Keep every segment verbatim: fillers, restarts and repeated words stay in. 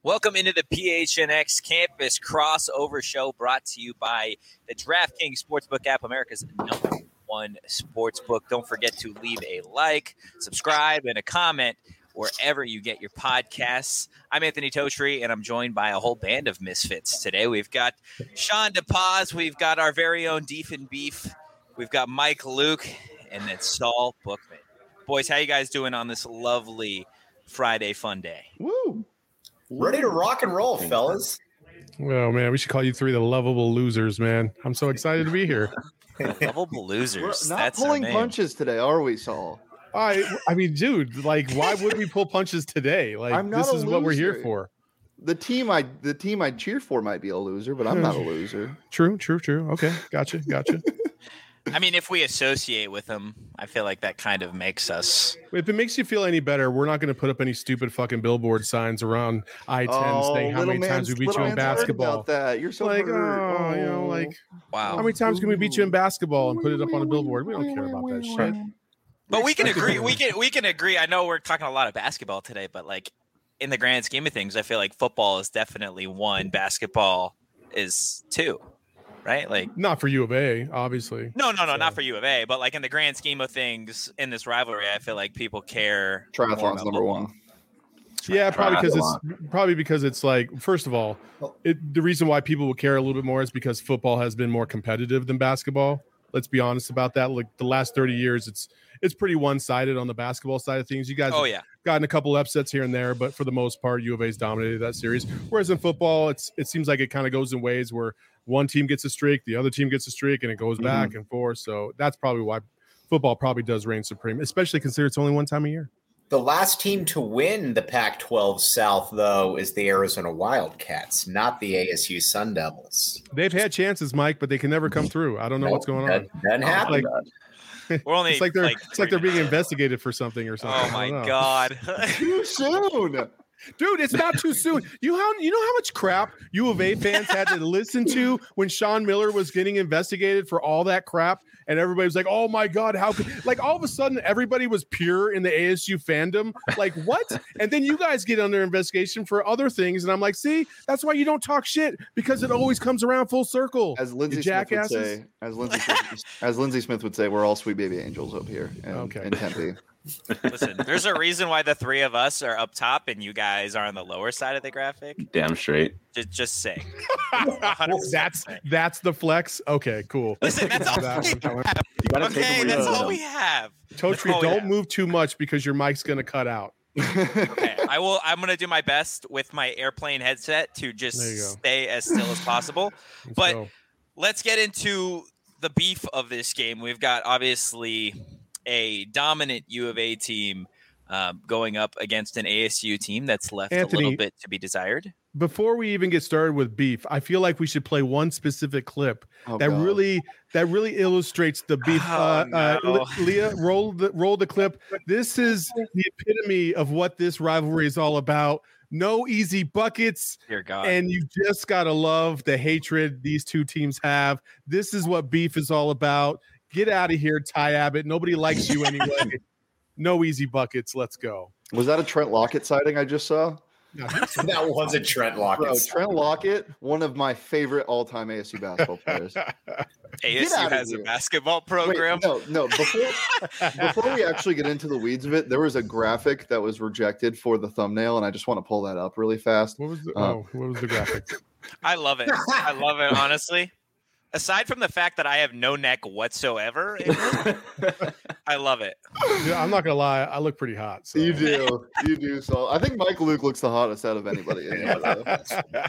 Welcome into the P H N X Campus Crossover Show, brought to you by the DraftKings Sportsbook app, America's number one sportsbook. Don't forget to leave a like, subscribe, and a comment wherever you get your podcasts. I'm Anthony Totri, and I'm joined by a whole band of misfits today. We've got Sean DePaz, we've got our very own Deef and Beef, we've got Mike Luke, and then Saul Bookman. Boys, how you guys doing on this lovely Friday fun day? Woo! Ready to rock and roll, fellas. Well, man, we should call you three the lovable losers, man. I'm so excited to be here. Lovable losers. We're not That's pulling punches today, are we, Saul? I, I mean, dude, like, why would we pull punches today? Like, I'm not this a is what we're here loser. for. The team I the team I cheer for might be a loser, but I'm not a loser. True, true, true. Okay, gotcha, gotcha. I mean, if we associate with them, I feel like that kind of makes us. If it makes you feel any better, we're not going to put up any stupid fucking billboard signs around I ten Oh, saying how little many times we man's- beat you little in man's worried basketball. About that. You're so Like, hurt. oh, you know, like, Wow. how many times can we beat you in basketball and put it up on a billboard? We don't care about that shit. But we can agree. We can we can agree. I know we're talking a lot of basketball today, but like in the grand scheme of things, I feel like football is definitely one, basketball is two, right? Like Not for U of A, obviously. no, no, no, So- not for U of A, but like in the grand scheme of things in this rivalry, I feel like people care. more Triathlon's about number football. one. Yeah, probably because it's probably because it's like, first of all, it, the reason why people will care a little bit more is because football has been more competitive than basketball. Let's be honest about that. Like the last thirty years, it's it's pretty one sided on the basketball side of things. You guys, Oh have yeah, gotten a couple upsets here and there, but for the most part, U of A's dominated that series. Whereas in football, it's it seems like it kind of goes in ways where one team gets a streak, the other team gets a streak, and it goes Mm-hmm. back and forth. So that's probably why football probably does reign supreme, especially considering it's only one time a year. The last team to win the Pac twelve South, though, is the Arizona Wildcats, not the A S U Sun Devils. They've had chances, Mike, but they can never come through. I don't know what's going on. That doesn't happen. Like, we're only it's like they're like it's like they're three being minutes in. investigated for something or something. Oh I my don't know. god. Too soon. Dude, it's not too soon. You how you know how much crap U of A fans had to listen to when Sean Miller was getting investigated for all that crap, and everybody was like, "Oh my god, how could?" Like all of a sudden, everybody was pure in the A S U fandom. Like what? And then you guys get under investigation for other things, and I'm like, "See, that's why you don't talk shit because it always comes around full circle." As Lindsay You Smith would jackasses. say, as Lindsay Smith, as Lindsay Smith would say, we're all sweet baby angels up here in, Okay. in Tempe. Listen, there's a reason why the three of us are up top and you guys are on the lower side of the graphic. Damn straight. Just, just saying. one hundred percent That's saying. that's the flex. Okay, cool. Listen, that's all That we one. have. You gotta take Okay, them where that's you all know. we have. Totri, Oh, don't yeah. move too much because your mic's gonna cut out. Okay, I will. I'm gonna do my best with my airplane headset to just There you go. stay as still as possible. Let's But go. let's get into the beef of this game. We've got obviously a dominant U of A team um, going up against an A S U team that's left a Anthony- little bit to be desired. Before we even get started with beef, I feel like we should play one specific clip Oh, that God. really that really illustrates the beef. Oh, uh, uh, no. Le- Leah, roll the roll the clip. This is the epitome of what this rivalry is all about. No easy buckets, Dear God. and you just gotta love the hatred these two teams have. This is what beef is all about. Get out of here, Ty Abbott. Nobody likes you anyway. No easy buckets. Let's go. Was that a Trent Lockett sighting I just saw? That was a Trent Bro, Lockett. Trent Lockett, one of my favorite all-time A S U basketball players. A S U outta has a here. basketball Wait, program. no, no. Before before we actually get into the weeds of it, there was a graphic that was rejected for the thumbnail, and I just want to pull that up really fast. What was the Uh, oh? What was the graphic? I love it. I love it, honestly. Aside from the fact that I have no neck whatsoever, in it, I love it. Yeah, I'm not gonna lie. I look pretty hot. So. You do, you do. So I think Mike Luke looks the hottest out of anybody. In here, though.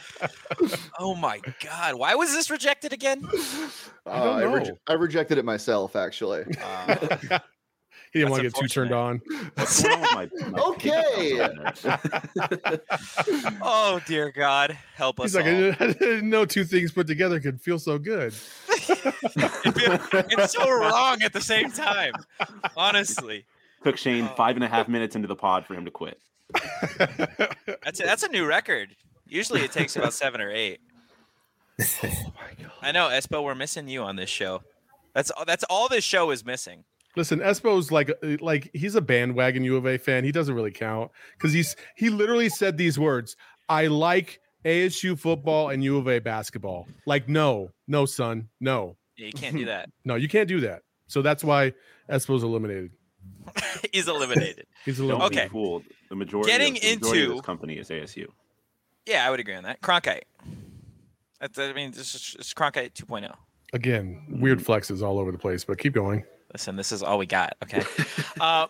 Oh my God. Why was this rejected again? I don't Uh, reje- know. I rejected it myself, actually. Uh, He didn't That's want to get too turned on. What's going on with my, my Okay. oh, dear God. Help us He's like, I all. didn't, I didn't know two things put together could feel so good. it's so wrong at the same time. Honestly. Took Shane Oh. five and a half minutes into the pod for him to quit. That's a, that's a new record. Usually it takes about seven or eight. Oh my god. I know, Espo, we're missing you on this show. That's that's all this show is missing. Listen, Espo's like like he's a bandwagon U of A fan. He doesn't really count because he's he literally said these words. I like A S U football and U of A basketball. Like, no, no, son, no. Yeah, you can't do that. No, you can't do that. So that's why Espo's eliminated. He's eliminated. He's Don't eliminated. Okay. be fooled. The majority, Getting of, the majority into- of this company is A S U. Yeah, I would agree on that. Cronkite. That's, I mean, this is it's Cronkite two point oh. Again, weird flexes all over the place, but keep going. Listen, this is all we got. Okay. uh,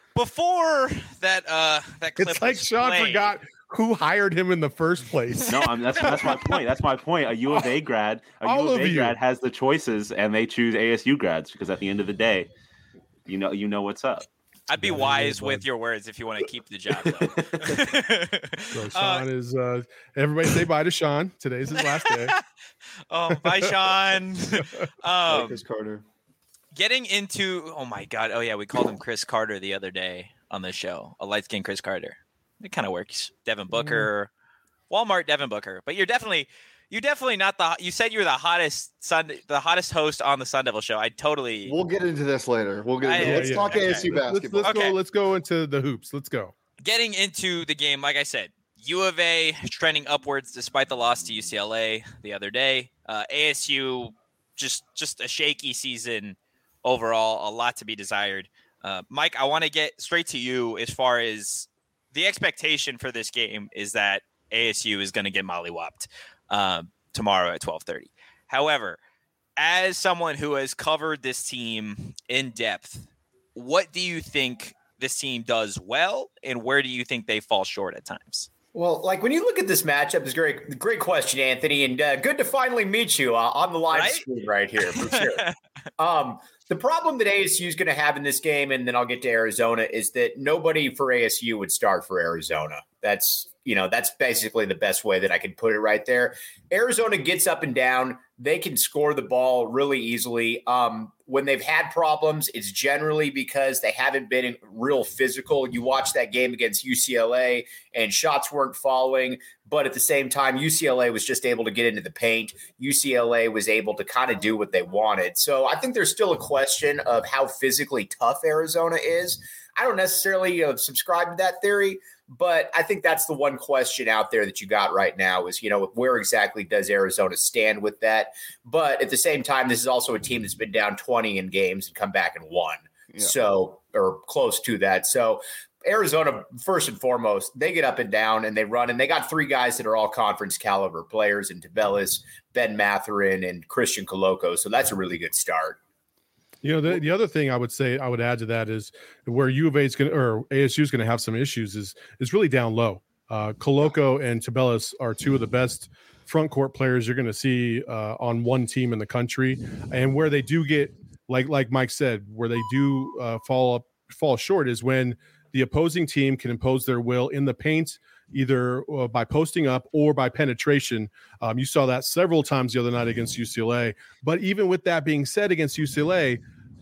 before that, uh, that clip It's like was Sean played- forgot who hired him in the first place. No, I'm, that's that's my point. That's my point. A U of A grad, a All U of of A you. grad has the choices, and they choose A S U grads because at the end of the day, you know, you know what's up. I'd be Yeah, it wise is, with bud. your words if you want to keep the job. Though. So Uh, Sean is. Uh, everybody say bye to Sean. Today's his last day. oh, bye, Sean. Like um, Chris Carter. getting into oh my god, oh yeah, we called him Chris Carter the other day on the show. A light skinned Chris Carter. It kind of works. Devin Booker, Walmart, Devin Booker. But you're definitely, you're definitely not the. You said you were the hottest Sun, the hottest host on the Sun Devil show. I totally. We'll get into this later. We'll get. I- Into, yeah, let's yeah. talk Okay. A S U Let's, basketball. let's Okay. go. Let's go into the hoops. Let's go. Getting into the game, like I said, U of A trending upwards despite the loss to U C L A the other day. Uh, A S U just just a shaky season overall. A lot to be desired. Uh, Mike, I want to get straight to you as far as the expectation for this game is that A S U is going to get mollywopped um, tomorrow at twelve thirty. However, as someone who has covered this team in depth, what do you think this team does well, and where do you think they fall short at times? Well, like when you look at this matchup, it's great. Great question, Anthony, and uh, good to finally meet you uh, on the live Right? stream right here for sure. um, the problem that A S U is going to have in this game, and then I'll get to Arizona, is that nobody for A S U would start for Arizona. That's you know that's basically the best way that I can put it right there. Arizona gets up and down. They can score the ball really easily. Um, when they've had problems, it's generally because they haven't been real physical. You watch that game against U C L A and shots weren't falling, but at the same time, U C L A was just able to get into the paint. U C L A was able to kind of do what they wanted. So I think there's still a question of how physically tough Arizona is. I don't necessarily uh, subscribe to that theory, but I think that's the one question out there that you got right now is, you know, where exactly does Arizona stand with that? But at the same time, this is also a team that's been down twenty in games and come back and won. Yeah. So, or close to that. So Arizona, first and foremost, they get up and down and they run, and they got three guys that are all conference caliber players in Tabelis, Ben Matherin, and Christian Coloco. So that's a really good start. You know, the, the other thing I would say I would add to that is where U of A is going to, or A S U is going to have some issues is is really down low. Uh, Coloco and Tabelis are two of the best front court players you're going to see uh, on one team in the country, and where they do get like like Mike said, where they do uh, fall up fall short is when the opposing team can impose their will in the paint, either uh, by posting up or by penetration. Um, you saw that several times the other night against U C L A. But even with that being said, against U C L A,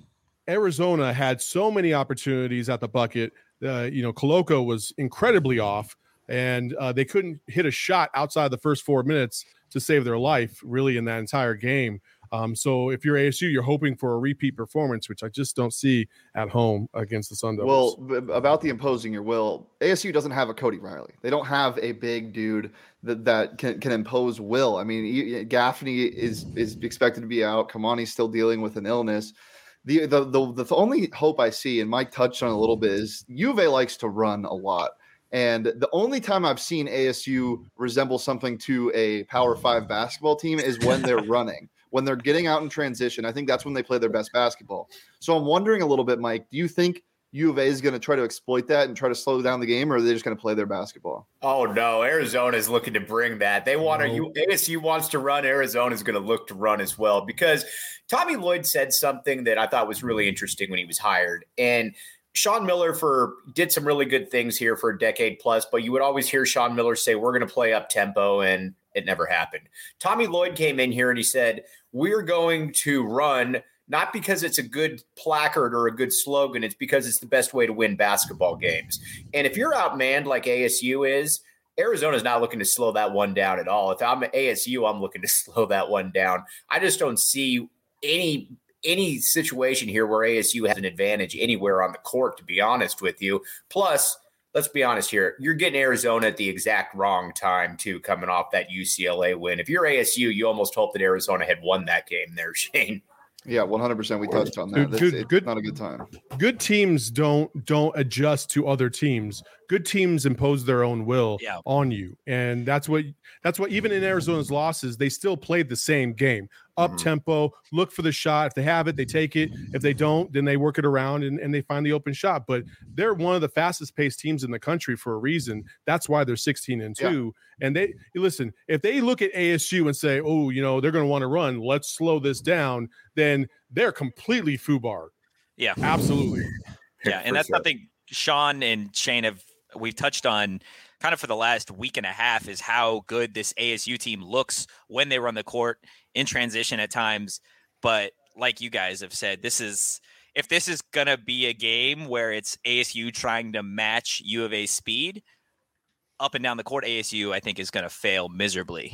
Arizona had so many opportunities at the bucket. Uh, you know, Coloco was incredibly off, and uh, they couldn't hit a shot outside the first four minutes to save their life, really, in that entire game. Um, so if you're A S U, you're hoping for a repeat performance, which I just don't see at home against the Sun Devils. Well, b- about the imposing your will, A S U doesn't have a Cody Riley. They don't have a big dude that, that can, can impose will. I mean, you- Gaffney is is expected to be out. Kamani's still dealing with an illness. The, the the the only hope I see, and Mike touched on it a little bit, is U of A likes to run a lot. And the only time I've seen A S U resemble something to a Power Five basketball team is when they're running. When they're getting out in transition, I think that's when they play their best basketball. So I'm wondering a little bit, Mike, do you think U of A is going to try to exploit that and try to slow down the game, or are they just going to play their basketball? Oh, no. Arizona is looking to bring that. They want No. to, A S U wants to run. Arizona is going to look to run as well, because Tommy Lloyd said something that I thought was really interesting when he was hired. And Sean Miller for did some really good things here for a decade plus, but you would always hear Sean Miller say, we're going to play up tempo, and it never happened. Tommy Lloyd came in here and he said, we're going to run, not because it's a good placard or a good slogan. It's because it's the best way to win basketball games. And if you're outmanned like A S U is, Arizona's not looking to slow that one down at all. If I'm A S U, I'm looking to slow that one down. I just don't see any any situation here where A S U has an advantage anywhere on the court, to be honest with you. Plus, let's be honest here. You're getting Arizona at the exact wrong time, too, coming off that U C L A win. If you're A S U, you almost hope that Arizona had won that game there, Shane. Yeah, one hundred percent. We touched on that. Good, Good, good, it's good, not a good time. Good teams don't don't adjust to other teams. Good teams impose their own will yeah. on you, and that's what that's what even in Arizona's losses, they still played the same game, up tempo. Look for the shot. If they have it, they take it. If they don't, then they work it around and, and they find the open shot. But they're one of the fastest paced teams in the country for a reason. That's why they're sixteen and two. Yeah. And they listen. If they look at A S U and say, "Oh, you know, they're going to want to run. Let's slow this down," then they're completely foobar. Yeah, absolutely. Yeah, and that's sure. something Sean and Shane have we've touched on kind of for the last week and a half is how good this A S U team looks when they run the court in transition at times. But like you guys have said, this is if this is gonna be a game where it's A S U trying to match U of A's speed up and down the court, A S U I think is gonna fail miserably.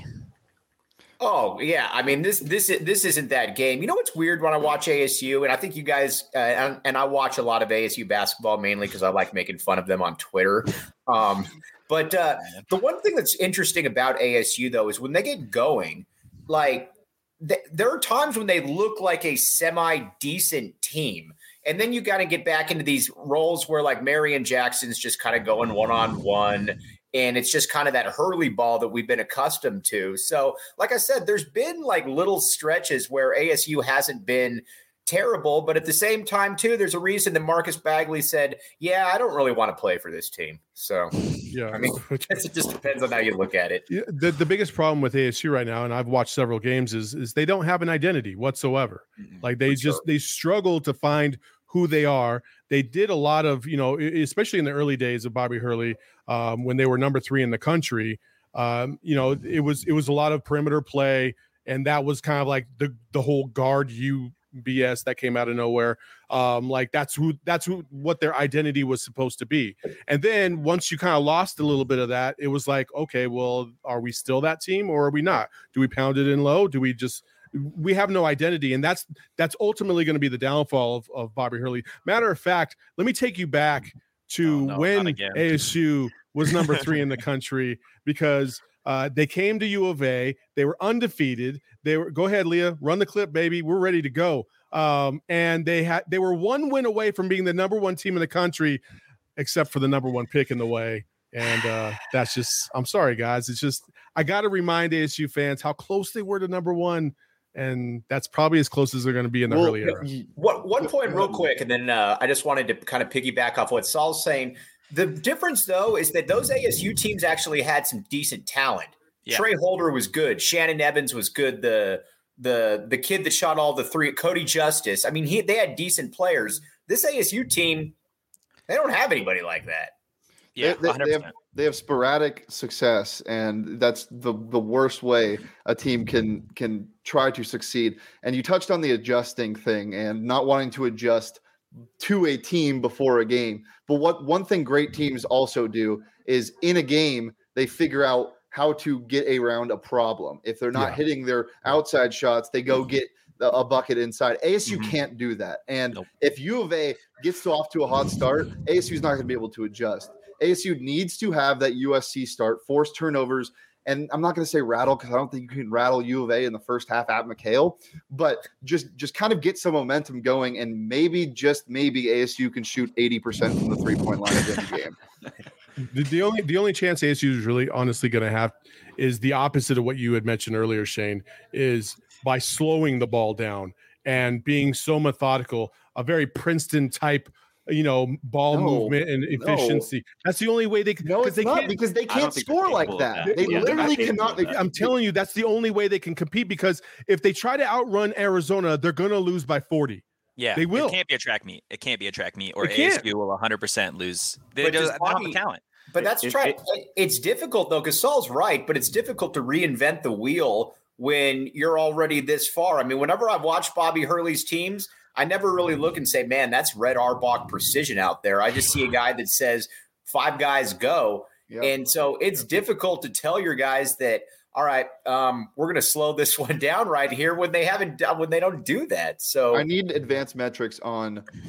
Oh yeah, I mean this this this isn't that game. You know what's weird when I watch A S U, and I think you guys uh, and, and I watch a lot of A S U basketball mainly because I like making fun of them on Twitter. Um, but uh, the one thing that's interesting about A S U though is when they get going, like th- there are times when they look like a semi decent team, and then you got to get back into these roles where like Marion Jackson's just kind of going one on one. And it's just kind of that Hurley ball that we've been accustomed to. So, like I said, there's been like little stretches where A S U hasn't been terrible. But at the same time, too, there's a reason that Marcus Bagley said, yeah, I don't really want to play for this team. So, yeah, I mean, I guess it just depends on how you look at it. Yeah, the, the biggest problem with A S U right now, and I've watched several games, is, is they don't have an identity whatsoever. Mm-hmm. Like they for just sure. they struggle to find who they are. They did a lot of, you know, especially in the early days of Bobby Hurley, um, when they were number three in the country, um, you know, it was, it was a lot of perimeter play. And that was kind of like the, the whole guard you B S that came out of nowhere. Um, like that's who, that's who, what their identity was supposed to be. And then once you kind of lost a little bit of that, it was like, okay, well, are we still that team or are we not? Do we pound it in low? Do we just, we have no identity, and that's that's ultimately going to be the downfall of, of Bobby Hurley. Matter of fact, let me take you back to oh, no, when A S U was number three in the country, because uh, they came to U of A. They were undefeated. They were go ahead, Leah, run the clip, baby. We're ready to go. Um, and they had they were one win away from being the number one team in the country, except for the number one pick in the way. And uh, that's just I'm sorry, guys. It's just I got to remind A S U fans how close they were to number one. And that's probably as close as they're going to be in the well, early era. What, one point real quick, and then uh, I just wanted to kind of piggyback off what Saul's saying. The difference, though, is that those A S U teams actually had some decent talent. Yeah. Trey Holder was good. Shannon Evans was good. The the the kid that shot all the three, Cody Justice. I mean, he they had decent players. This A S U team, they don't have anybody like that. Yeah, they, they, they, have, they have sporadic success, and that's the the worst way a team can can try to succeed. And you touched on the adjusting thing and not wanting to adjust to a team before a game. But what one thing great teams also do is in a game, they figure out how to get around a problem. If they're not yeah. hitting their outside shots, they go get a bucket inside. A S U mm-hmm. can't do that. And nope. if U of A gets off to a hot start, A S U is not going to be able to adjust. A S U needs to have that U S C start, force turnovers, and I'm not going to say rattle because I don't think you can rattle U of A in the first half at McHale, but just just kind of get some momentum going, and maybe, just maybe, A S U can shoot eighty percent from the three-point line at the end of the game. The, the only the only chance A S U is really honestly going to have is the opposite of what you had mentioned earlier, Shane, is by slowing the ball down and being so methodical, a very Princeton type, you know, ball no, movement and efficiency. No. That's the only way they can. No, it's they not can't, because they can't score like that. that. They yeah, literally cannot. They, I'm telling you, that's the only way they can compete, because if they try to outrun Arizona, they're going to lose by forty. Yeah, they will. It can't be a track meet. It can't be a track meet, or A S U will one hundred percent lose. They don't have the talent. But that's it, try. It, it, it's difficult though, because Saul's right. But it's difficult to reinvent the wheel when you're already this far. I mean, whenever I've watched Bobby Hurley's teams, I never really look and say, man, that's Red Auerbach precision out there. I just see a guy that says five guys go. Yep. And so it's yep. difficult to tell your guys that, all right, um, we're going to slow this one down right here when they haven't done, when they don't do that. So I need advanced metrics on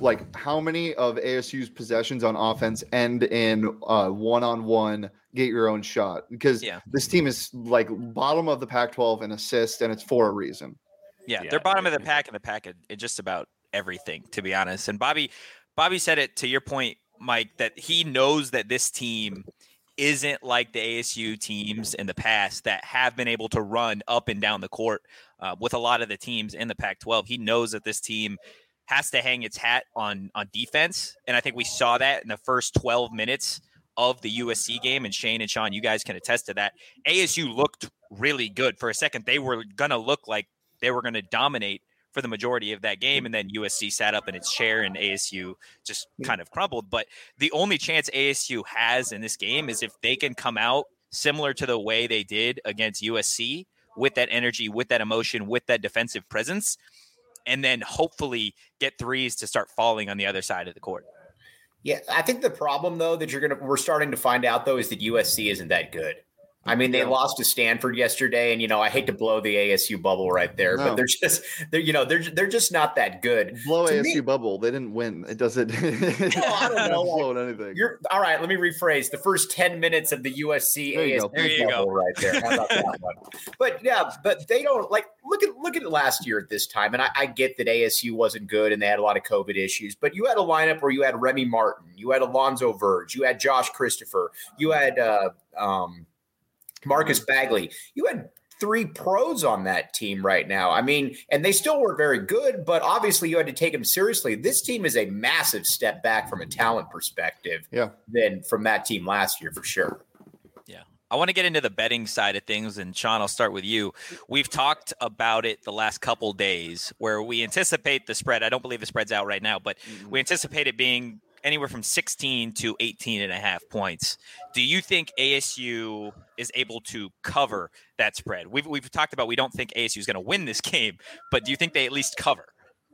like how many of A S U's possessions on offense end in uh, one-on-one get your own shot? Because yeah. this team is like bottom of the Pac twelve in assists, and it's for a reason. Yeah, Yeah, they're bottom of the yeah. pack in the pack in, in just about everything, to be honest. And Bobby, Bobby said it to your point, Mike, that he knows that this team isn't like the A S U teams in the past that have been able to run up and down the court uh, with a lot of the teams in the Pac twelve. He knows that this team has to hang its hat on on defense, and I think we saw that in the first twelve minutes of the U S C game. And Shane and Sean, you guys can attest to that. A S U looked really good for a second. They were gonna look like they were going to dominate for the majority of that game. And then U S C sat up in its chair and A S U just kind of crumbled. But the only chance A S U has in this game is if they can come out similar to the way they did against U S C with that energy, with that emotion, with that defensive presence, and then hopefully get threes to start falling on the other side of the court. Yeah, I think the problem, though, that you're going to, we're starting to find out, though, is that U S C isn't that good. I mean, they yeah. lost to Stanford yesterday, and you know, I hate to blow the A S U bubble right there, no. but they're just they're you know they're they're just not that good. Blow to A S U me, bubble. They didn't win. It doesn't. It well, I don't know. blow anything. You're all right. Let me rephrase. The first ten minutes of the U S C there A S U bubble, go. right there. How about that one? But yeah, but they don't like look at look at it last year at this time, and I, I get that A S U wasn't good and they had a lot of COVID issues, but you had a lineup where you had Remy Martin, you had Alonzo Verge, you had Josh Christopher, you had. Uh, um, Marcus Bagley, you had three pros on that team right now. I mean, and they still were very good, but obviously you had to take them seriously. This team is a massive step back from a talent perspective yeah. than from that team last year for sure. Yeah. I want to get into the betting side of things, and Sean, I'll start with you. We've talked about it the last couple days where we anticipate the spread. I don't believe the spread's out right now, but mm-hmm. we anticipate it being anywhere from sixteen to eighteen and a half points. Do you think A S U is able to cover that spread? We've we've talked about we don't think A S U is going to win this game, but do you think they at least cover?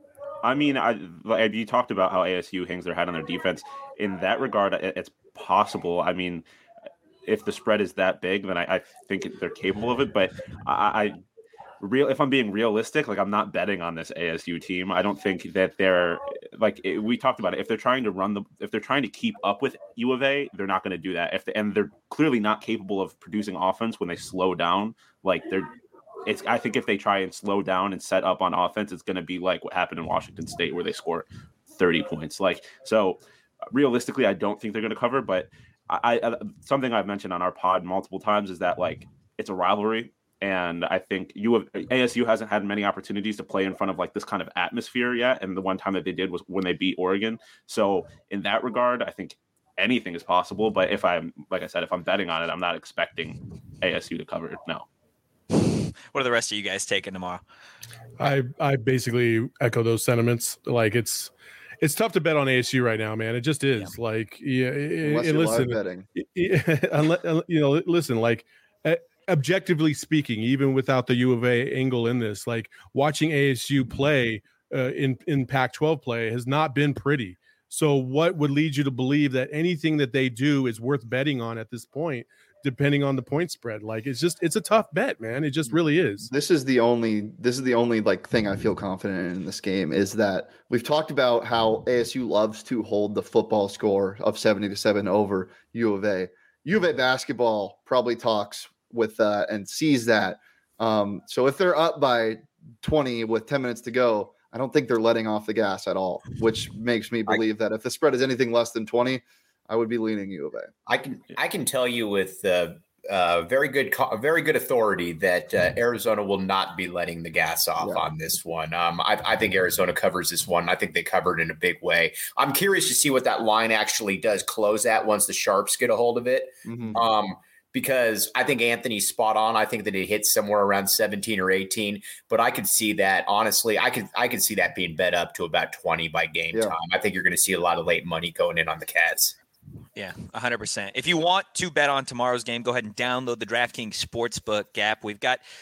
I mean, I, like you talked about how A S U hangs their hat on their defense. In that regard, it's possible. I mean, if the spread is that big, then I, I think they're capable of it. But I, I real if I'm being realistic, like I'm not betting on this A S U team. I don't think that they're like it, we talked about it. If they're trying to run the, if they're trying to keep up with U of A, they're not going to do that. If they, and they're clearly not capable of producing offense when they slow down. Like they're, it's. I think if they try and slow down and set up on offense, it's going to be like what happened in Washington State where they score thirty points. Like so, realistically, I don't think they're going to cover. But I, I something I've mentioned on our pod multiple times is that like it's a rivalry. And I think you have, A S U hasn't had many opportunities to play in front of like this kind of atmosphere yet. And the one time that they did was when they beat Oregon. So in that regard, I think anything is possible. But if I'm, like I said, if I'm betting on it, I'm not expecting A S U to cover it. No. What are the rest of you guys taking tomorrow? I, I basically echo those sentiments. Like it's, it's tough to bet on A S U right now, man. It just is. Yeah. Like, yeah. Unless and you're listen, live betting. Unless, you know, listen, like, objectively speaking, even without the U of A angle in this, like watching A S U play uh, in in Pac twelve play has not been pretty. So what would lead you to believe that anything that they do is worth betting on at this point, depending on the point spread? Like it's just it's a tough bet, man. It just really is. This is the only this is the only like thing I feel confident in, in this game is that we've talked about how A S U loves to hold the football score of seventy to seven over U of A. U of A basketball probably talks with that uh, and sees that. Um, so if they're up by twenty with ten minutes to go, I don't think they're letting off the gas at all, which makes me believe I, that if the spread is anything less than twenty, I would be leaning U of A. I can I can tell you with uh, uh, very good very good authority that uh, Arizona will not be letting the gas off yeah. on this one. Um, I, I think Arizona covers this one. I think they covered in a big way. I'm curious to see what that line actually does close at once the Sharps get a hold of it. Mm-hmm. Um, Because I think Anthony's spot on. I think that it hits somewhere around seventeen or eighteen, but I could see that honestly. I could I could see that being bet up to about twenty by game yeah. time. I think you're going to see a lot of late money going in on the Cats. Yeah, one hundred percent. If you want to bet on tomorrow's game, go ahead and download the DraftKings Sportsbook app. We've got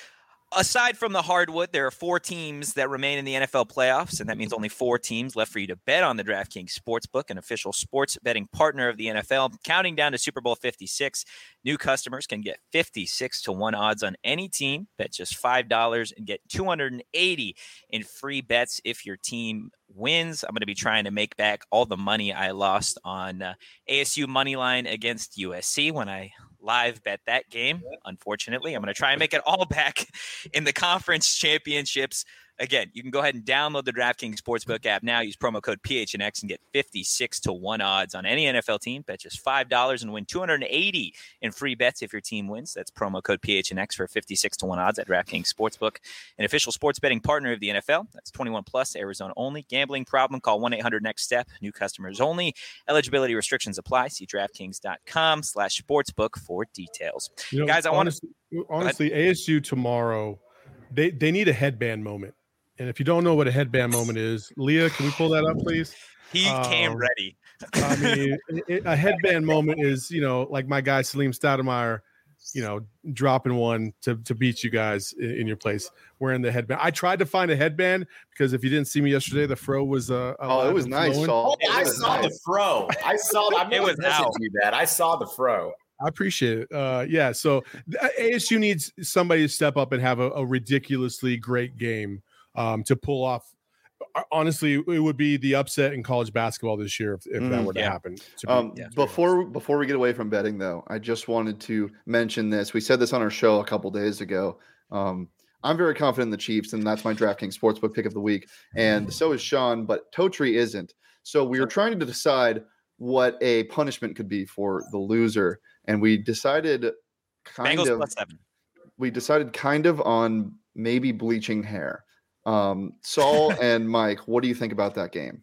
Aside from the hardwood, there are four teams that remain in the N F L playoffs, and that means only four teams left for you to bet on. The DraftKings Sportsbook, an official sports betting partner of the N F L. Counting down to Super Bowl fifty-six, new customers can get fifty-six to one odds on any team. Bet just five dollars and get two hundred eighty in free bets if your team wins. I'm going to be trying to make back all the money I lost on uh, A S U money line against U S C when I live bet that game. Unfortunately, I'm going to try and make it all back in the conference championships. Again, you can go ahead and download the DraftKings Sportsbook app now. Use promo code P H N X and get fifty-six to one odds on any N F L team. Bet just five dollars and win two hundred eighty in free bets if your team wins. That's promo code P H N X for fifty-six to one odds at DraftKings Sportsbook, an official sports betting partner of the N F L. That's twenty-one plus, Arizona only. Gambling problem? Call one eight hundred next step. New customers only. Eligibility restrictions apply. See DraftKings.com slash sportsbook for details. You know, Guys, I want to honestly, A S U tomorrow, they, they need a headband moment. And if you don't know what a headband moment is, Leah, can we pull that up, please? He um, came ready. I mean, it, a headband moment is, you know, like my guy Salim Stoudemire, you know, dropping one to, to beat you guys in, in your place wearing the headband. I tried to find a headband because if you didn't see me yesterday, the fro was uh, oh, it was nice. Oh, I saw nice. the fro. I saw. I'm it was out. You that I saw the fro. I appreciate it. Uh, yeah. So A S U needs somebody to step up and have a, a ridiculously great game. Um, to pull off, honestly, it would be the upset in college basketball this year if, if mm, that were to yeah. happen. To um, be, yeah, before before we get away from betting, though, I just wanted to mention this. We said this on our show a couple days ago. Um, I'm very confident in the Chiefs, and that's my DraftKings Sportsbook pick of the week. And so is Sean, but Totri isn't. So we were trying to decide what a punishment could be for the loser, and we decided kind Bengals of. Plus seven. We decided kind of on maybe bleaching hair. Um, Saul and Mike, what do you think about that game?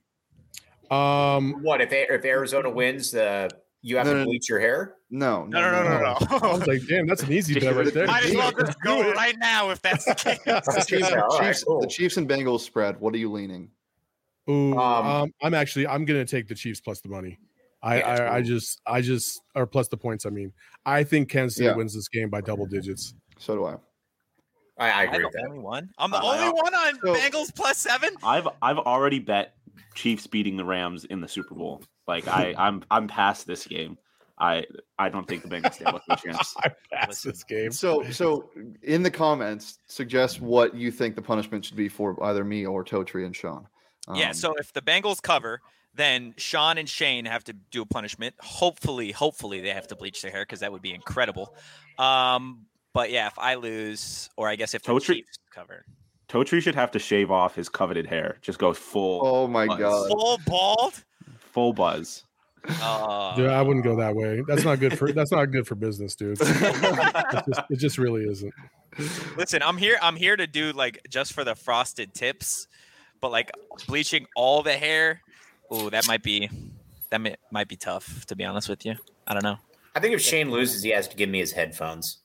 Um, what if if Arizona wins? Uh, you have no, to no, bleach your hair? No, no, no, no, no. no, no. I was like, damn, that's an easy bet right there. Might as well just go right now if that's the case. the, Chiefs, yeah, Chiefs, right, cool. the Chiefs and Bengals spread. What are you leaning? Ooh, um, um, I'm actually I'm gonna take the Chiefs plus the money. I, yeah, I, cool. I just I just or plus the points. I mean, I think Kansas City yeah. wins this game by double digits. So do I. I, I agree I'm with the that. only one. I'm the Uh, only one on so- Bengals plus seven. I've I've already bet Chiefs beating the Rams in the Super Bowl. Like I I'm I'm past this game. I I don't think the Bengals stand with a chance. I pass this game. So so in the comments, suggest what you think the punishment should be for either me or Totri and Sean. Um, Yeah, so if the Bengals cover, then Sean and Shane have to do a punishment. Hopefully, hopefully they have to bleach their hair because that would be incredible. Um, but yeah, if I lose, or I guess if the Totri- Chiefs cover, Totri should have to shave off his coveted hair. Just go full Oh my buzz. god. full bald. full buzz. Uh, Dude, I wouldn't go that way. That's not good for that's not good for business, dude. It just, it just really isn't. Listen, I'm here. I'm here to do like just for the frosted tips, but like bleaching all the hair. Ooh, that might be that may, might be tough. To be honest with you, I don't know. I think if Shane loses, he has to give me his headphones.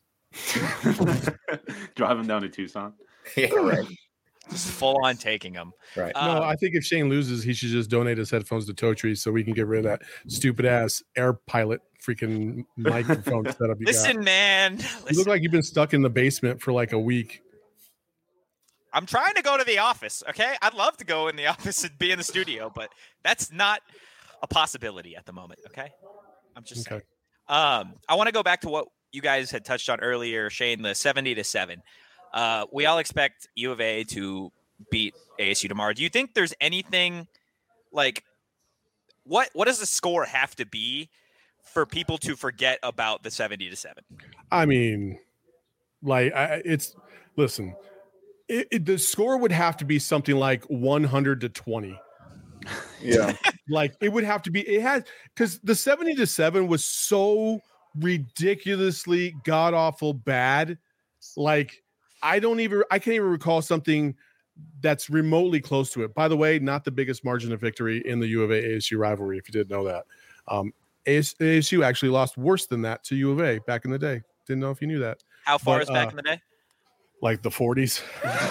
Drive him down to Tucson. Yeah, right. Just full on taking them. Right. Uh, No, I think if Shane loses, he should just donate his headphones to Totri so we can get rid of that stupid ass air pilot freaking microphone setup you listen, got. man. You Listen, look like you've been stuck in the basement for like a week. I'm trying to go to the office. Okay, I'd love to go in the office and be in the studio, but that's not a possibility at the moment. Okay, I'm just Okay. saying. Um, I want to go back to what you guys had touched on earlier, Shane. The seventy to seven. Uh, we all expect U of A to beat A S U tomorrow. Do you think there's anything like what? What does the score have to be for people to forget about the seventy to seven? I mean, like I, it's listen. It, it, the score would have to be something like one hundred to twenty. Yeah. Like it would have to be. It has because the seventy to seven was so ridiculously god awful bad. Like I don't even. I can't even recall something that's remotely close to it. By the way, not the biggest margin of victory in the U of A A S U rivalry. If you didn't know that, um, A S U actually lost worse than that to U of A back in the day. Didn't know if you knew that. How far But, is back uh, in the day? Like the forties.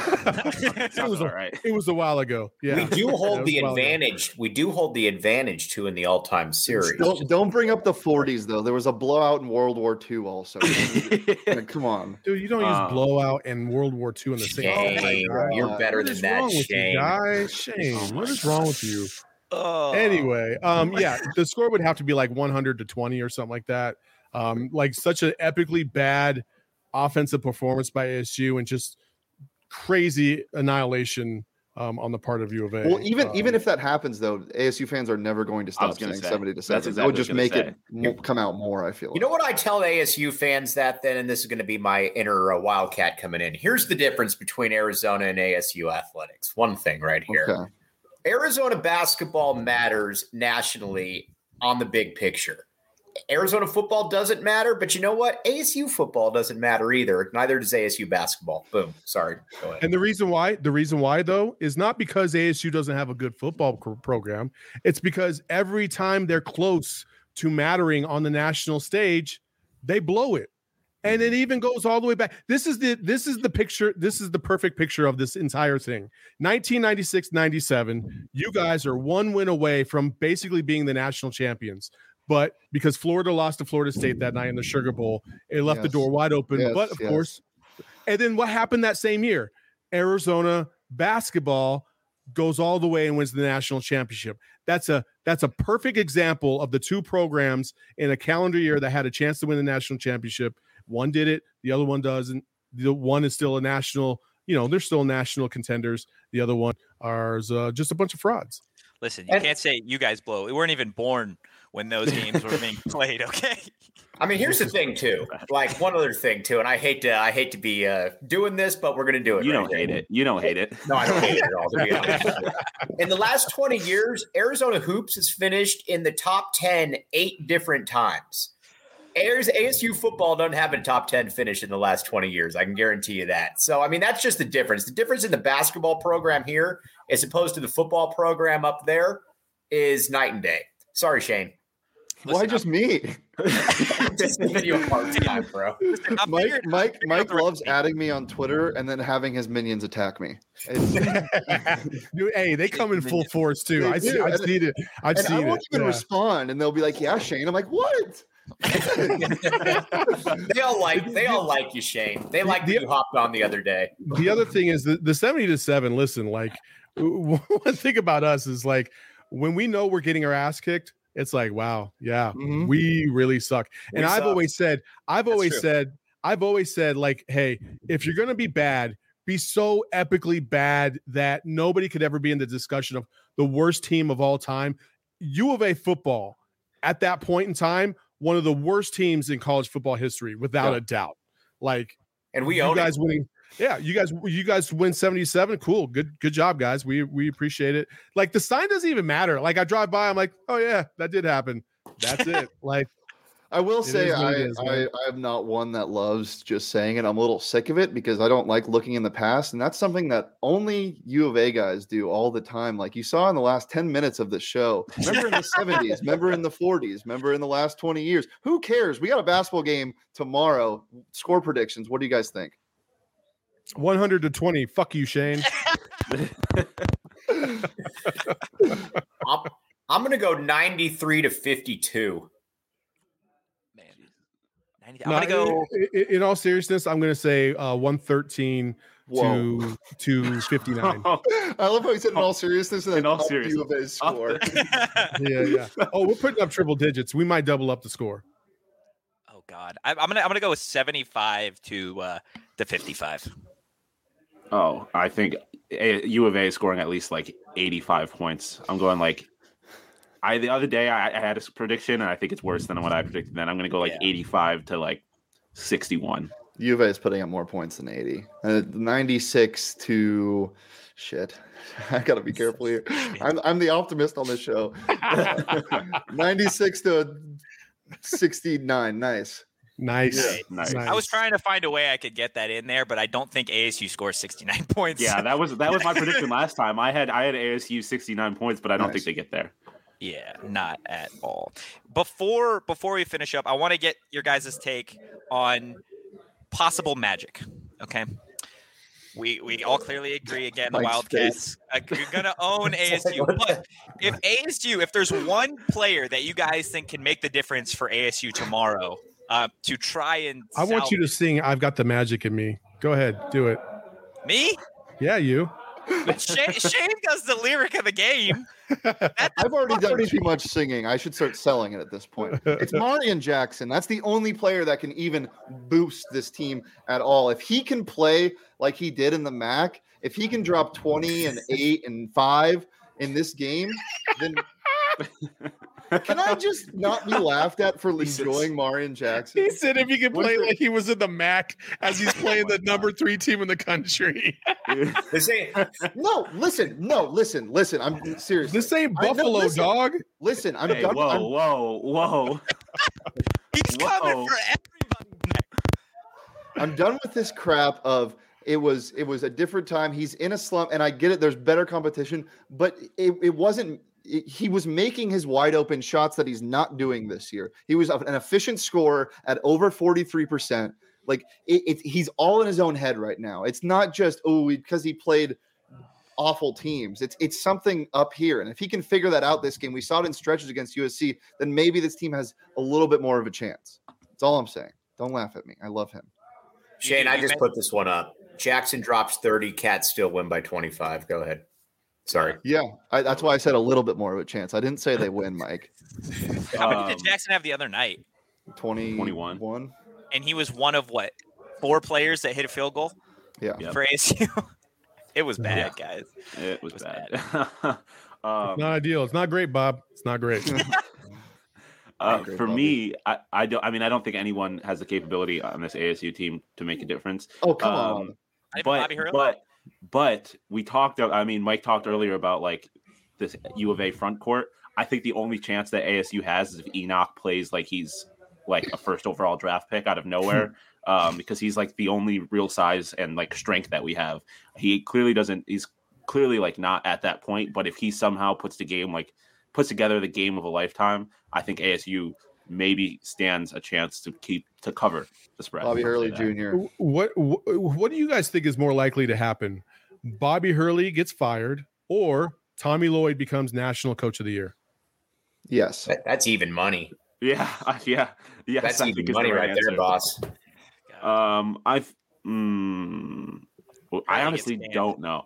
it was all a, right. It was a while ago. Yeah, We do hold Yeah, the it was a while ago. advantage. We do hold the advantage too in the all-time series. Don't don't bring up the forties though. There was a blowout in World War Two also. Like, come on. Dude, you don't Uh, use blowout and World War Two in the same. Shane, Oh my God. you're better What than is that, wrong with Shane. you, guys? Shane, Oh my what is wrong with you? Oh. Anyway, um, yeah, the score would have to be like one hundred to twenty or something like that. Um, like such an epically bad offensive performance by A S U and just crazy annihilation um, on the part of U of A. Well, even Um, even if that happens though, A S U fans are never going to I stop was gonna saying say, seventy to that's seven. exactly That would just what I was make gonna it mo- come out more. I feel. You know what I tell A S U fans that then, and this is going to be my inner uh, Wildcat coming in. Here's the difference between Arizona and A S U athletics. One thing right here. Okay. Arizona basketball matters nationally on the big picture. Arizona football doesn't matter, but you know what? A S U football doesn't matter either. Neither does A S U basketball. Boom. Sorry. Go ahead. And the reason why, the reason why though, is not because A S U doesn't have a good football co- program. It's because every time they're close to mattering on the national stage, they blow it. And it even goes all the way back. This is the this is the picture. This is the perfect picture of this entire thing. nineteen ninety-six ninety-seven, you guys are one win away from basically being the national champions. But because Florida lost to Florida State that night in the Sugar Bowl, it left the Yes. door wide open. Yes, but of yes. course, and then what happened that same year? Arizona basketball goes all the way and wins the national championship. That's a that's a perfect example of the two programs in a calendar year that had a chance to win the national championship. One did it, the other one doesn't. The one is still a national, you know, they're still national contenders. The other one are uh, just a bunch of frauds. Listen, you And- can't say you guys blow. We weren't even born when those games were being played. Okay. I mean, here's the thing too. Like one other thing too, and I hate to I hate to be uh, doing this, but we're gonna do it. You right don't here. hate it. You don't hate it. No, I don't hate it at all. To be honest with you. In the last twenty years, Arizona Hoops has finished in the top ten eight different times. A S U football doesn't have a top ten finish in the last twenty years. I can guarantee you that. So, I mean, that's just the difference. The difference in the basketball program here, as opposed to the football program up there, is night and day. Sorry, Shane. Why just me? Just giving you a hard time, bro. I'm Mike figuring- Mike figuring out Mike the right loves thing. adding me on Twitter and then having his minions attack me. It's- Dude, hey, they come in full force too. They I see, do, I've and- seen it. I've and I seen won't it. even Yeah. respond, and they'll be like, "Yeah, Shane." I'm like, "What?" They all like they all like you, Shane. They like The- that you hopped on the other day. The other thing is the, the seventy to seven. Listen, like one thing about us is like when we know we're getting our ass kicked, it's like, wow, yeah, Mhm. we really suck. And We I've suck. always said, I've That's always true. said, I've always said, like, hey, if you're gonna be bad, be so epically bad that nobody could ever be in the discussion of the worst team of all time. U of A football at that point in time, one of the worst teams in college football history, without Yeah. a doubt. Like And we you own guys it. winning. Yeah, you guys, you guys win seventy-seven. Cool, good, good job, guys. We we appreciate it. Like the sign doesn't even matter. Like I drive by, I'm like, oh yeah, that did happen. That's it. Like I will It say is what I, it is, I man. I am not one that loves just saying it. I'm a little sick of it because I don't like looking in the past, and that's something that only U of A guys do all the time. Like you saw in the last ten minutes of the show. Remember in the seventies, remember in the forties, remember in the last twenty years. Who cares? We got a basketball game tomorrow. Score predictions. What do you guys think? one hundred to twenty. Fuck you, Shane. I'm, I'm going to go ninety-three to fifty-two. Man, ninety I'm No, gonna go. i- i- In all seriousness, I'm gonna say uh, one thirteen Whoa. to to fifty-nine. I love how he said in all seriousness and then In all up seriousness. U of A's score. Yeah, yeah. Oh, we're putting up triple digits. We might double up the score. Oh God, I, I'm gonna I'm gonna go with seventy-five to uh, to fifty-five. Oh, I think A- U of A is scoring at least like eighty-five points. I'm going like I the other day I, I had a prediction and I think it's worse than what I predicted. Then I'm going to go like Yeah. eighty-five to like sixty-one. U of A is putting up more points than eighty. Uh, ninety-six to shit. I gotta be careful here. I'm I'm the optimist on this show. Uh, ninety-six to sixty-nine. Nice. Nice. Yeah, nice. I was trying to find a way I could get that in there, but I don't think A S U scores sixty-nine points. Yeah, that was that was my prediction last time. I had I had A S U sixty-nine points, but I don't Nice. think they get there. Yeah, not at all. Before before we finish up, I want to get your guys' take on possible magic. Okay. We we all clearly agree again. The Mike's Wildcats are going to own A S U. But if A S U, if there's one player that you guys think can make the difference for A S U tomorrow, uh, to try and I want you to sing "I've Got the Magic in Me." Go ahead, do it. Me? Yeah, you. But Shane, Shane does the lyric of the game. I've already done too much singing. I should start selling it at this point. It's Marion Jackson. That's the only player that can even boost this team at all. If he can play like he did in the M A C, if he can drop twenty and eight and five in this game, then can I just not be laughed at for enjoying Marion Jackson? He said if he could play What's like he was in the M A C as he's playing the number three team in the country. This ain't No, listen, no, listen, listen. I'm serious. This ain't I- no, Buffalo, listen. dog. Listen, I'm Hey, done. whoa, I'm, whoa, whoa. He's coming Whoa. for everybody. I'm done with this crap of it was it was a different time. He's in a slump, and I get it. There's better competition, but it, it wasn't. It, he was making his wide open shots that he's not doing this year. He was an efficient scorer at over forty-three percent. Like it, it, he's all in his own head right now. It's not just oh because he played awful teams. It's it's something up here, and if he can figure that out this game, we saw it in stretches against U S C. Then maybe this team has a little bit more of a chance. That's all I'm saying. Don't laugh at me. I love him. Shane, I just put this one up. Jackson drops thirty, Cats still win by twenty-five. Go ahead. Sorry. Yeah, I, that's why I said a little bit more of a chance. I didn't say they win, Mike. How many Um, did Jackson have the other night? twenty, twenty-one. One? And he was one of what? Four players that hit a field goal Yeah. Yep. for A S U. It was bad, guys. It was, was bad. It's um, not ideal. It's not great, Bob. It's not great. uh, Great, for Bobby. me, I, I don't. I mean, I don't think anyone has the capability on this A S U team to make a difference. Oh, come Um, on. Not even but Bobby Hurley? but but we talked. I mean, Mike talked earlier about like this U of A front court. I think the only chance that A S U has is if Enoch plays like he's like a first overall draft pick out of nowhere, um, because he's like the only real size and like strength that we have. He clearly doesn't. He's clearly like not at that point. But if he somehow puts the game like puts together the game of a lifetime, I think A S U maybe stands a chance to keep to cover the spread. Bobby Hurley Say that. Junior what, what what do you guys think is more likely to happen? Bobby Hurley gets fired or Tommy Lloyd becomes national coach of the year? Yes. That- that's even money. Yeah, yeah, yes. That's I even think is the money right there, answer. boss. Um, I've, mm, well, I Hurley honestly gets canned. don't know.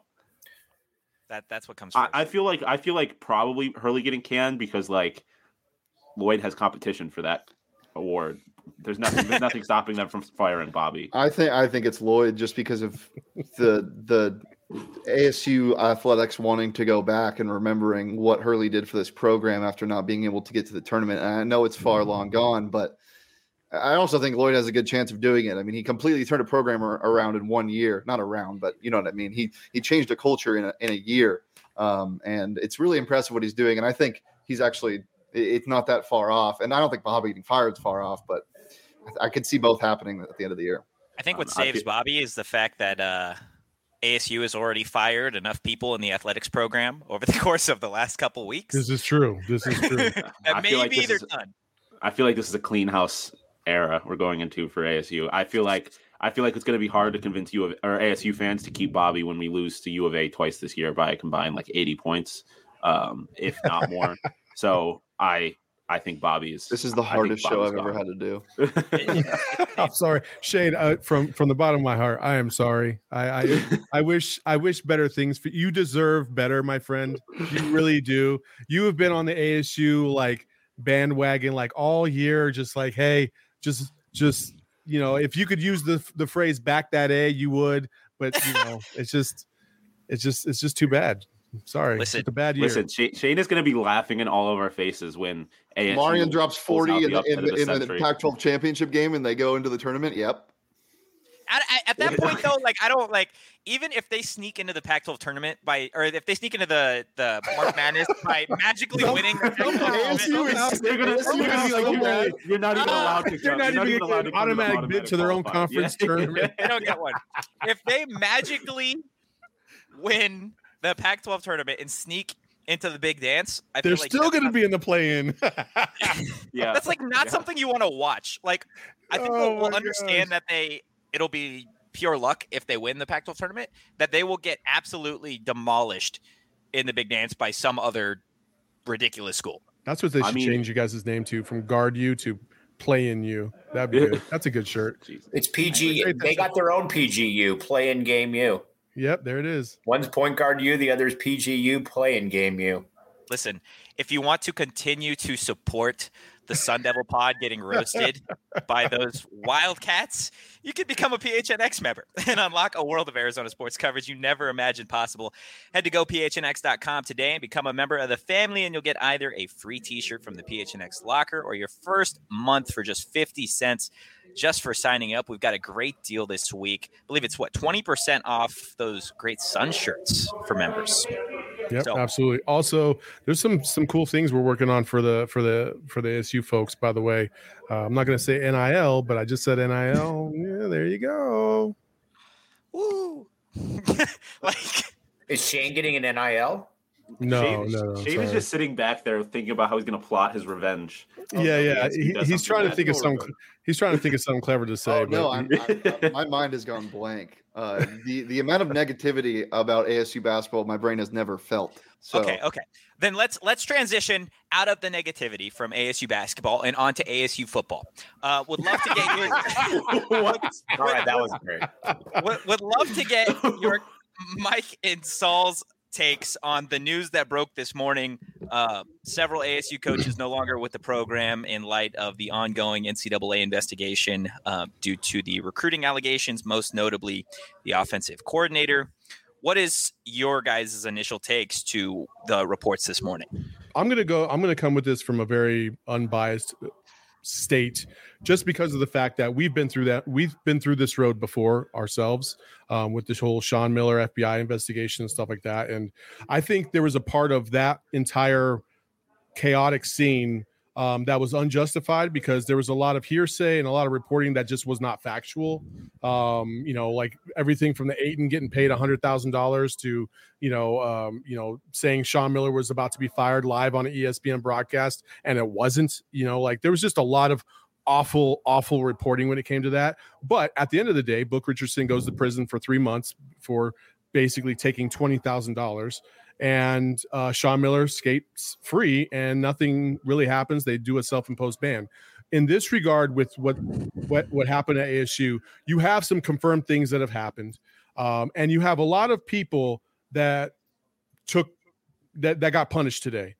That that's what comes I, first. I feel like I feel like probably Hurley getting canned because like Lloyd has competition for that award. There's nothing. There's nothing stopping them from firing Bobby. I think I think it's Lloyd just because of the the A S U athletics wanting to go back and remembering what Hurley did for this program after not being able to get to the tournament. And I know it's far long gone, but I also think Lloyd has a good chance of doing it. I mean, he completely turned a program ar- around in one year, not around, but you know what I mean? He, he changed a culture in a, in a year. Um, and it's really impressive what he's doing. And I think he's actually, it- it's not that far off. And I don't think Bobby getting fired is far off, but I, I could see both happening at the end of the year. I think what Um, I saves feel- Bobby is the fact that uh, A S U has already fired enough people in the athletics program over the course of the last couple weeks. This is true. This is true. that I feel like maybe this they're is- done. I feel like this is a clean house era we're going into for A S U. I feel like I feel like it's going to be hard to convince you of or A S U fans to keep Bobby when we lose to U of A twice this year by a combined like eighty points, um, if not more. So I I think Bobby is. This is the I think hardest show Bobby's I've ever gone. had to do. I'm sorry, Shane. Uh, from from the bottom of my heart, I am sorry. I, I I wish I wish better things for you. Deserve better, my friend. You really do. You have been on the A S U like bandwagon like all year. Just like, hey, just just you know, if you could use the the phrase "back that A," you would. But you know, it's just it's just it's just too bad. Sorry, Listen- it's a bad year. Listen, Shane, Shane is going to be laughing in all of our faces when A S U Marion drops pulls forty out in, the upset in, of the in the century. Pac twelve championship game and they go into the tournament. Yep. At, at, at that point, though, like I don't like even if they sneak into the Pac twelve tournament by, or if they sneak into the the March Madness by magically winning. The Pac twelve A S U tournament, is- They're gonna, A S U you're, gonna is be so like, bad. you're, you're not even allowed to. They're come- not you're even allowed getting to come to the automatic bid to their own qualifier. conference Yeah. tournament. they don't get one. If they magically win the Pac twelve tournament and sneak into the big dance, I They're feel like still that's going to not- be in the play-in. Yeah, That's like not Yeah. something you want to watch. Like I think Oh we'll, we'll my understand gosh. that they it'll be pure luck if they win the Pac twelve tournament, that they will get absolutely demolished in the Big Dance by some other ridiculous school. That's what they should I mean, change you guys' name to, from Guard U to Play in U. That'd be good. That's a good shirt. It's P G. They got their own P G U, Play in Game U. Yep, there it is. One's Point Guard U, the other's P G U, Play in Game U. Listen, if you want to continue to support the Sun Devil Pod getting roasted by those Wildcats, you can become a P H N X member and unlock a world of Arizona sports coverage you never imagined possible. Head to go P H N X dot com today and become a member of the family, and you'll get either a free t-shirt from the P H N X locker or your first month for just fifty cents just for signing up. We've got a great deal this week. I believe it's, what, twenty percent off those great Sun shirts for members. Yep, so. Absolutely. Also, there's some some cool things we're working on for the for the for the A S U folks. By the way, uh, I'm not going to say N I L, but I just said N I L. Yeah, there you go. Woo! Like, is Shane getting an N I L? No, Shane, no, no. Shane is just sitting back there thinking about how he's going to plot his revenge. Oh, yeah, yeah. He, he's trying to think of some. He's trying to think of something clever to say. Oh, no, I'm, I'm, my mind has gone blank. Uh, the the amount of negativity about A S U basketball, my brain has never felt. So. Okay, okay. Then let's let's transition out of the negativity from A S U basketball and onto A S U football. Uh, would love to get your. What? All right, that was great. Would, would love to get your Mike and Saul's takes on the news that broke this morning. Uh, several A S U coaches no longer with the program in light of the ongoing N C double A investigation uh, due to the recruiting allegations, most notably the offensive coordinator. What is your guys' initial takes to the reports this morning? I'm going to go, I'm going to come with this from a very unbiased state, just because of the fact that we've been through that. We've been through this road before ourselves um, with this whole Sean Miller F B I investigation and stuff like that. And I think there was a part of that entire chaotic scene um, that was unjustified, because there was a lot of hearsay and a lot of reporting that just was not factual. Um, you know, like everything from the Ayton getting paid a hundred thousand dollars to, you know, um, you know, saying Sean Miller was about to be fired live on an E S P N broadcast, and it wasn't. You know, like there was just a lot of awful, awful reporting when it came to that. But at the end of the day, Book Richardson goes to prison for three months for basically taking twenty thousand dollars. And uh, Sean Miller skates free, and nothing really happens. They do a self-imposed ban. In this regard, with what what what happened at A S U, you have some confirmed things that have happened, um, and you have a lot of people that took that that got punished today.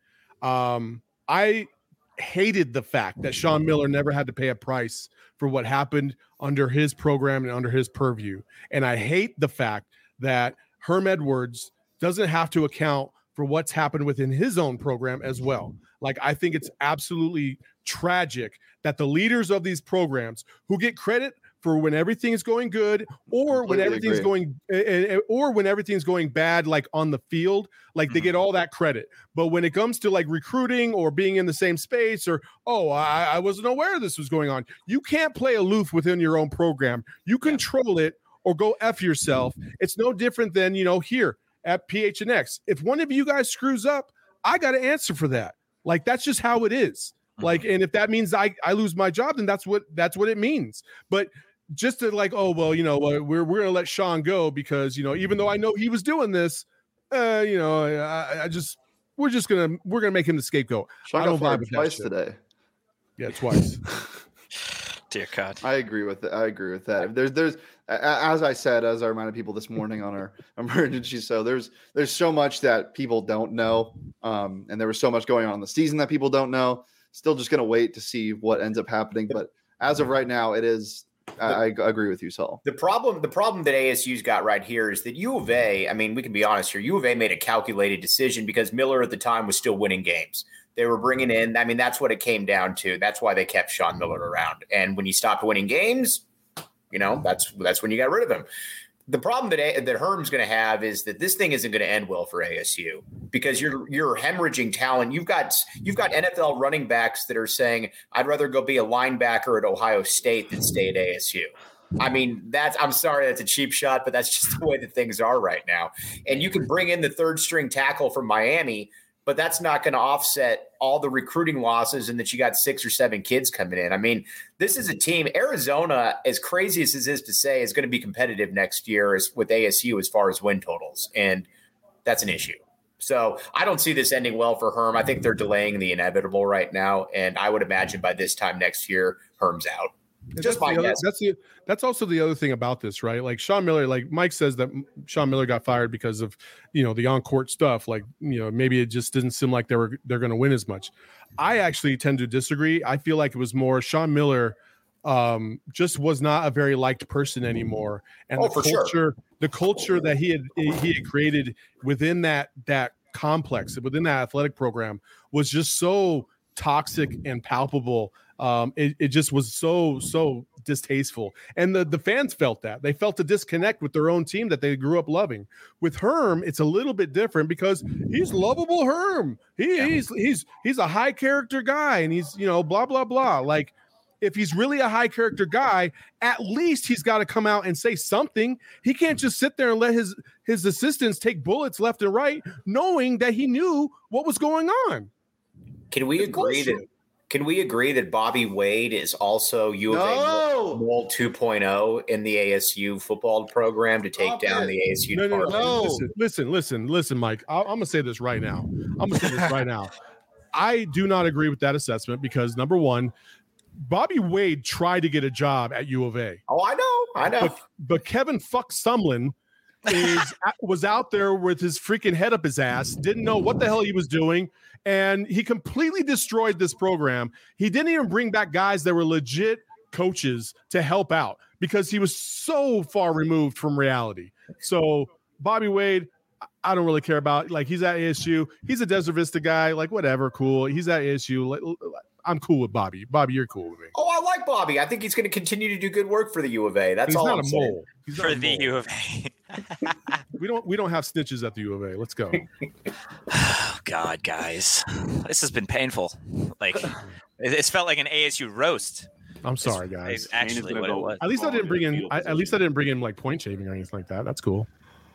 Um, I hated the fact that Sean Miller never had to pay a price for what happened under his program and under his purview, and I hate the fact that Herm Edwards doesn't have to account for what's happened within his own program as well. Like, I think it's absolutely tragic that the leaders of these programs, who get credit for when everything is going good, or when everything's agree. going, or when everything's going bad, like on the field, like mm-hmm. they get all that credit. But when it comes to like recruiting or being in the same space, or, oh, I, I wasn't aware this was going on, you can't play aloof within your own program. You control it, or go F yourself. It's no different than, you know, here at P H N X. If one of you guys screws up, I got to answer for that. Like, that's just how it is. Like, and if that means I, I lose my job, then that's what, that's what it means. But just to like, oh, well, you know, we're, we're going to let Sean go because, you know, even though I know he was doing this, uh, you know, I, I just, we're just going to, we're going to make him the scapegoat. Sean I don't got fired twice today. Yeah, twice. Dear God. I agree with that. I agree with that. There's, there's, as I said, as I reminded people this morning on our emergency show, there's, there's so much that people don't know. Um, and there was so much going on in the season that people don't know. Still just going to wait to see what ends up happening. But as of right now, it is, I, I agree with you, Saul. The problem, the problem that A S U's got right here is that U of A, I mean, we can be honest here, U of A made a calculated decision because Miller at the time was still winning games. They were bringing in, I mean, that's what it came down to. That's why they kept Sean Miller around. And when he stopped winning games, you know, that's that's when you got rid of him. The problem that that Herm's going to have is that this thing isn't going to end well for A S U because you're you're hemorrhaging talent. You've got you've got N F L running backs that are saying, I'd rather go be a linebacker at Ohio State than stay at A S U. I mean, that's I'm sorry, that's a cheap shot, but that's just the way that things are right now. And you can bring in the third string tackle from Miami but that's not going to offset all the recruiting losses and that you got six or seven kids coming in. I mean, this is a team. Arizona, as crazy as this is to say, is going to be competitive next year as, with A S U as far as win totals, and that's an issue. So I don't see this ending well for Herm. I think they're delaying the inevitable right now, and I would imagine by this time next year, Herm's out. Just my other, guess. That's the, that's also the other thing about this, right? Like Sean Miller, like Mike says that Sean Miller got fired because of, you know, the on-court stuff. Like, you know, maybe it just didn't seem like they were they're going to win as much. I actually tend to disagree. I feel like it was more Sean Miller um, just was not a very liked person anymore, and oh, the for culture, sure. the culture that he had he had created within that that complex, within that athletic program, was just so toxic and palpable. Um, it, it just was so, so distasteful. And the, the fans felt that. They felt a disconnect with their own team that they grew up loving. With Herm, it's a little bit different because he's lovable Herm. He, yeah. He's he's he's a high character guy, and he's, you know, blah, blah, blah. Like, if he's really a high character guy, at least he's got to come out and say something. He can't just sit there and let his, his assistants take bullets left and right, knowing that he knew what was going on. Can we agree that Can we agree that Bobby Wade is also U of no. A Mole two point oh in the A S U football program to take Stop down it. the A S U No, no, no. department? Listen, listen, listen, listen, Mike. I, I'm going to say this right now. I'm going to say this right now. I do not agree with that assessment because, number one, Bobby Wade tried to get a job at U of A. Oh, I know. I know. But, but Kevin Fuck Sumlin is was out there with his freaking head up his ass, didn't know what the hell he was doing, and he completely destroyed this program. He didn't even bring back guys that were legit coaches to help out because he was so far removed from reality. So Bobby Wade, I don't really care about. Like, he's at A S U. He's a Desert Vista guy. Like, whatever, cool. He's at A S U. I'm cool with Bobby. Bobby, you're cool with me. Oh, I like Bobby. I think he's going to continue to do good work for the U of A. That's he's all not I'm a saying. mole. He's For not a the mole. U of A. We don't we don't have snitches at the U of A. Let's go. Oh, God, guys. This has been painful. Like, it- it's felt like an A S U roast. I'm sorry, It's guys. actually what it was. At least I didn't bring in. I, at least I didn't bring in like point shaving or anything like that. That's cool.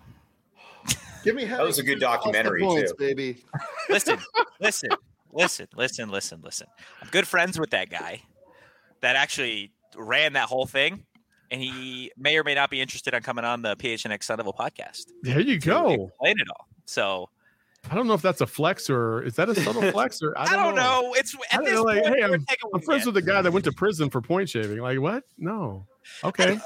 Give me That was a good headaches. documentary, Points, too. baby. Listen, listen, listen, listen, listen, listen. I'm good friends with that guy that actually ran that whole thing, and he may or may not be interested in coming on the P H N X Sun Devil podcast. There you to go. explain it all. So I don't know if that's a flex or is that a subtle flex or I I don't, don't know. know. It's I at don't this know, like, point, hey, we're I'm, taking I'm friends weekend. with the guy that went to prison for point shaving. Like, what? No. Okay.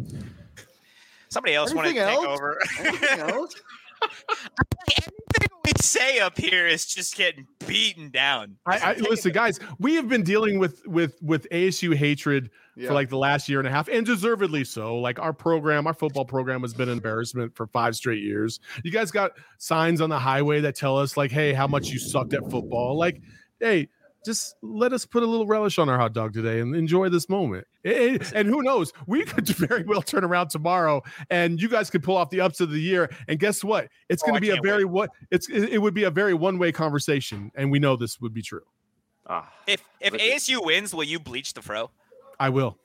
Somebody else wanted to Anything take else? over. Anything else? Everything we say up here is just getting beaten down. I, I listen, guys. We have been dealing with with with A S U hatred Yeah. for like the last year and a half, and deservedly so. Like, our program, our football program, has been an embarrassment for five straight years. You guys got signs on the highway that tell us, like, "Hey, how much you sucked at football." Like, hey, just let us put a little relish on our hot dog today and enjoy this moment. It- it- and who knows, we could very well turn around tomorrow, and you guys could pull off the upset of the year. And guess what? It's Oh, going I to be a can't very what it's it it would be a very one way conversation, and we know this would be true. Ah, If if listen. A S U wins, will you bleach the fro? I will.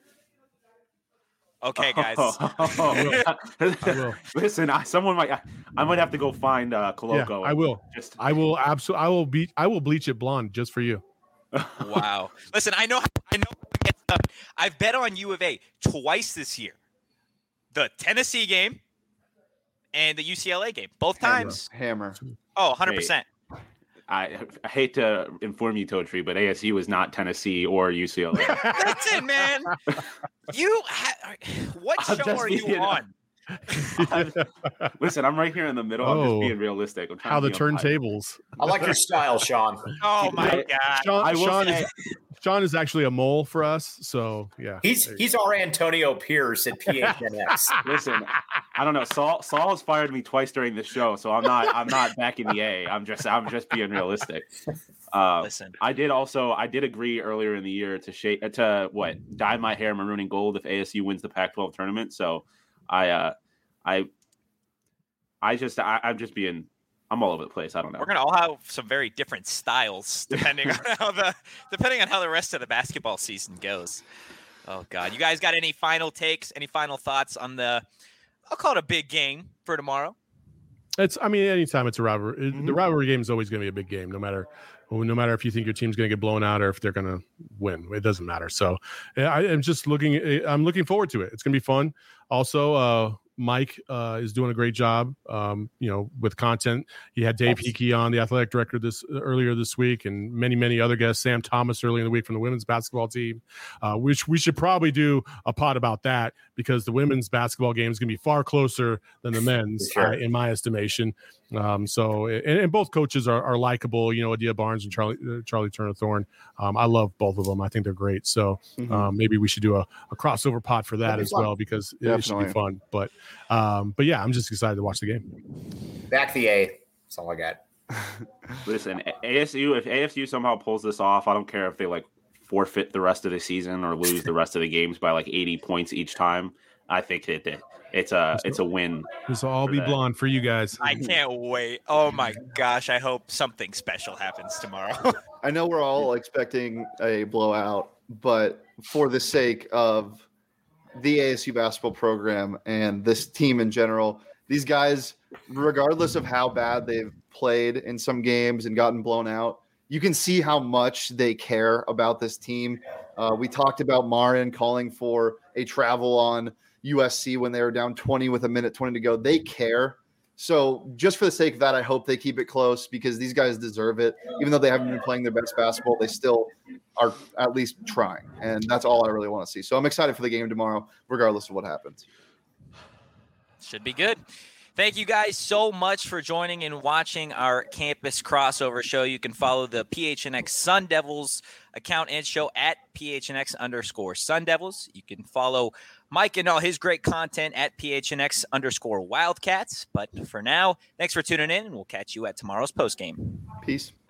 Okay, guys. I will. Listen, I, someone might. I, I might have to go find uh, Yeah, Coloco. I will. Just I will absolutely. I will be. I will bleach it blonde just for you. Wow. Listen, I know I know how it gets done. I've bet on U of A twice this year. The Tennessee game and the U C L A game. Both times. Hammer. Oh, one hundred percent. I, I hate to inform you, Toe Tree, but A S U is not Tennessee or U C L A. Listen, man. You ha- what I'm show just are you being- on? Listen, I'm right here in the middle. I'm Oh. just being realistic. I'm trying How to the be on my- turntables. I like your style, Sean. Oh my I- god. Sean, I will Sean, say- is, Sean is actually a mole for us. So yeah. He's There you he's our Antonio Pierce at P H N X. Listen, I don't know. Saul Saul has fired me twice during this show, so I'm not I'm not back in the A. I'm just I'm just being realistic. Uh, Listen. I did also I did agree earlier in the year to shape to what dye my hair maroon and gold if A S U wins the Pac twelve tournament. So I uh, I I just I, I'm just being I'm all over the place. I don't know. We're gonna all have some very different styles depending on how the depending on how the rest of the basketball season goes. Oh God. You guys got any final takes, any final thoughts on the I'll call it a big game for tomorrow? It's, I mean, anytime it's a rivalry, Mhm. the rivalry game is always going to be a big game, no matter, no matter if you think your team's going to get blown out or if they're going to win. It doesn't matter. So I am just looking, I'm looking forward to it. It's going to be fun. Also, uh, Mike uh, is doing a great job, um, you know, with content. He had Dave Hickey on, the athletic director, this earlier this week, and many, many other guests. Sam Thomas early in the week from the women's basketball team. Uh, which we should probably do a pod about that because the women's basketball game is going to be far closer than the men's, Sure. uh, in my estimation. Um, so, and, and both coaches are, are likable. You know, Adia Barnes and Charlie uh, Charlie Turner Thorne. Um, I love both of them. I think they're great. So Mhm. um, maybe we should do a, a crossover pod for that That'd be as fun. well because it, it should be Definitely. fun. But um, but yeah, I'm just excited to watch the game. Back the A. That's all I got. Listen, A S U, if A S U somehow pulls this off, I don't care if they like forfeit the rest of the season or lose the rest of the games by like eighty points each time. I think it, it it's a it's a win. This will all For be that. blonde for you guys. I can't wait. Oh my gosh. I hope something special happens tomorrow. I know we're all expecting a blowout, but for the sake of the A S U basketball program and this team in general, these guys, regardless of how bad they've played in some games and gotten blown out, you can see how much they care about this team. Uh, we talked about Marin calling for a travel on U S C when they were down twenty with a minute twenty to go. They care. So just for the sake of that, I hope they keep it close because these guys deserve it. Even though they haven't been playing their best basketball, they still are at least trying. And that's all I really want to see. So I'm excited for the game tomorrow, regardless of what happens. Should be good. Thank you guys so much for joining and watching our campus crossover show. You can follow the P H N X Sun Devils account and show at P H N X underscore Sun Devils. You can follow Mike and all his great content at P H N X underscore Wildcats. But for now, thanks for tuning in, and we'll catch you at tomorrow's postgame. Peace.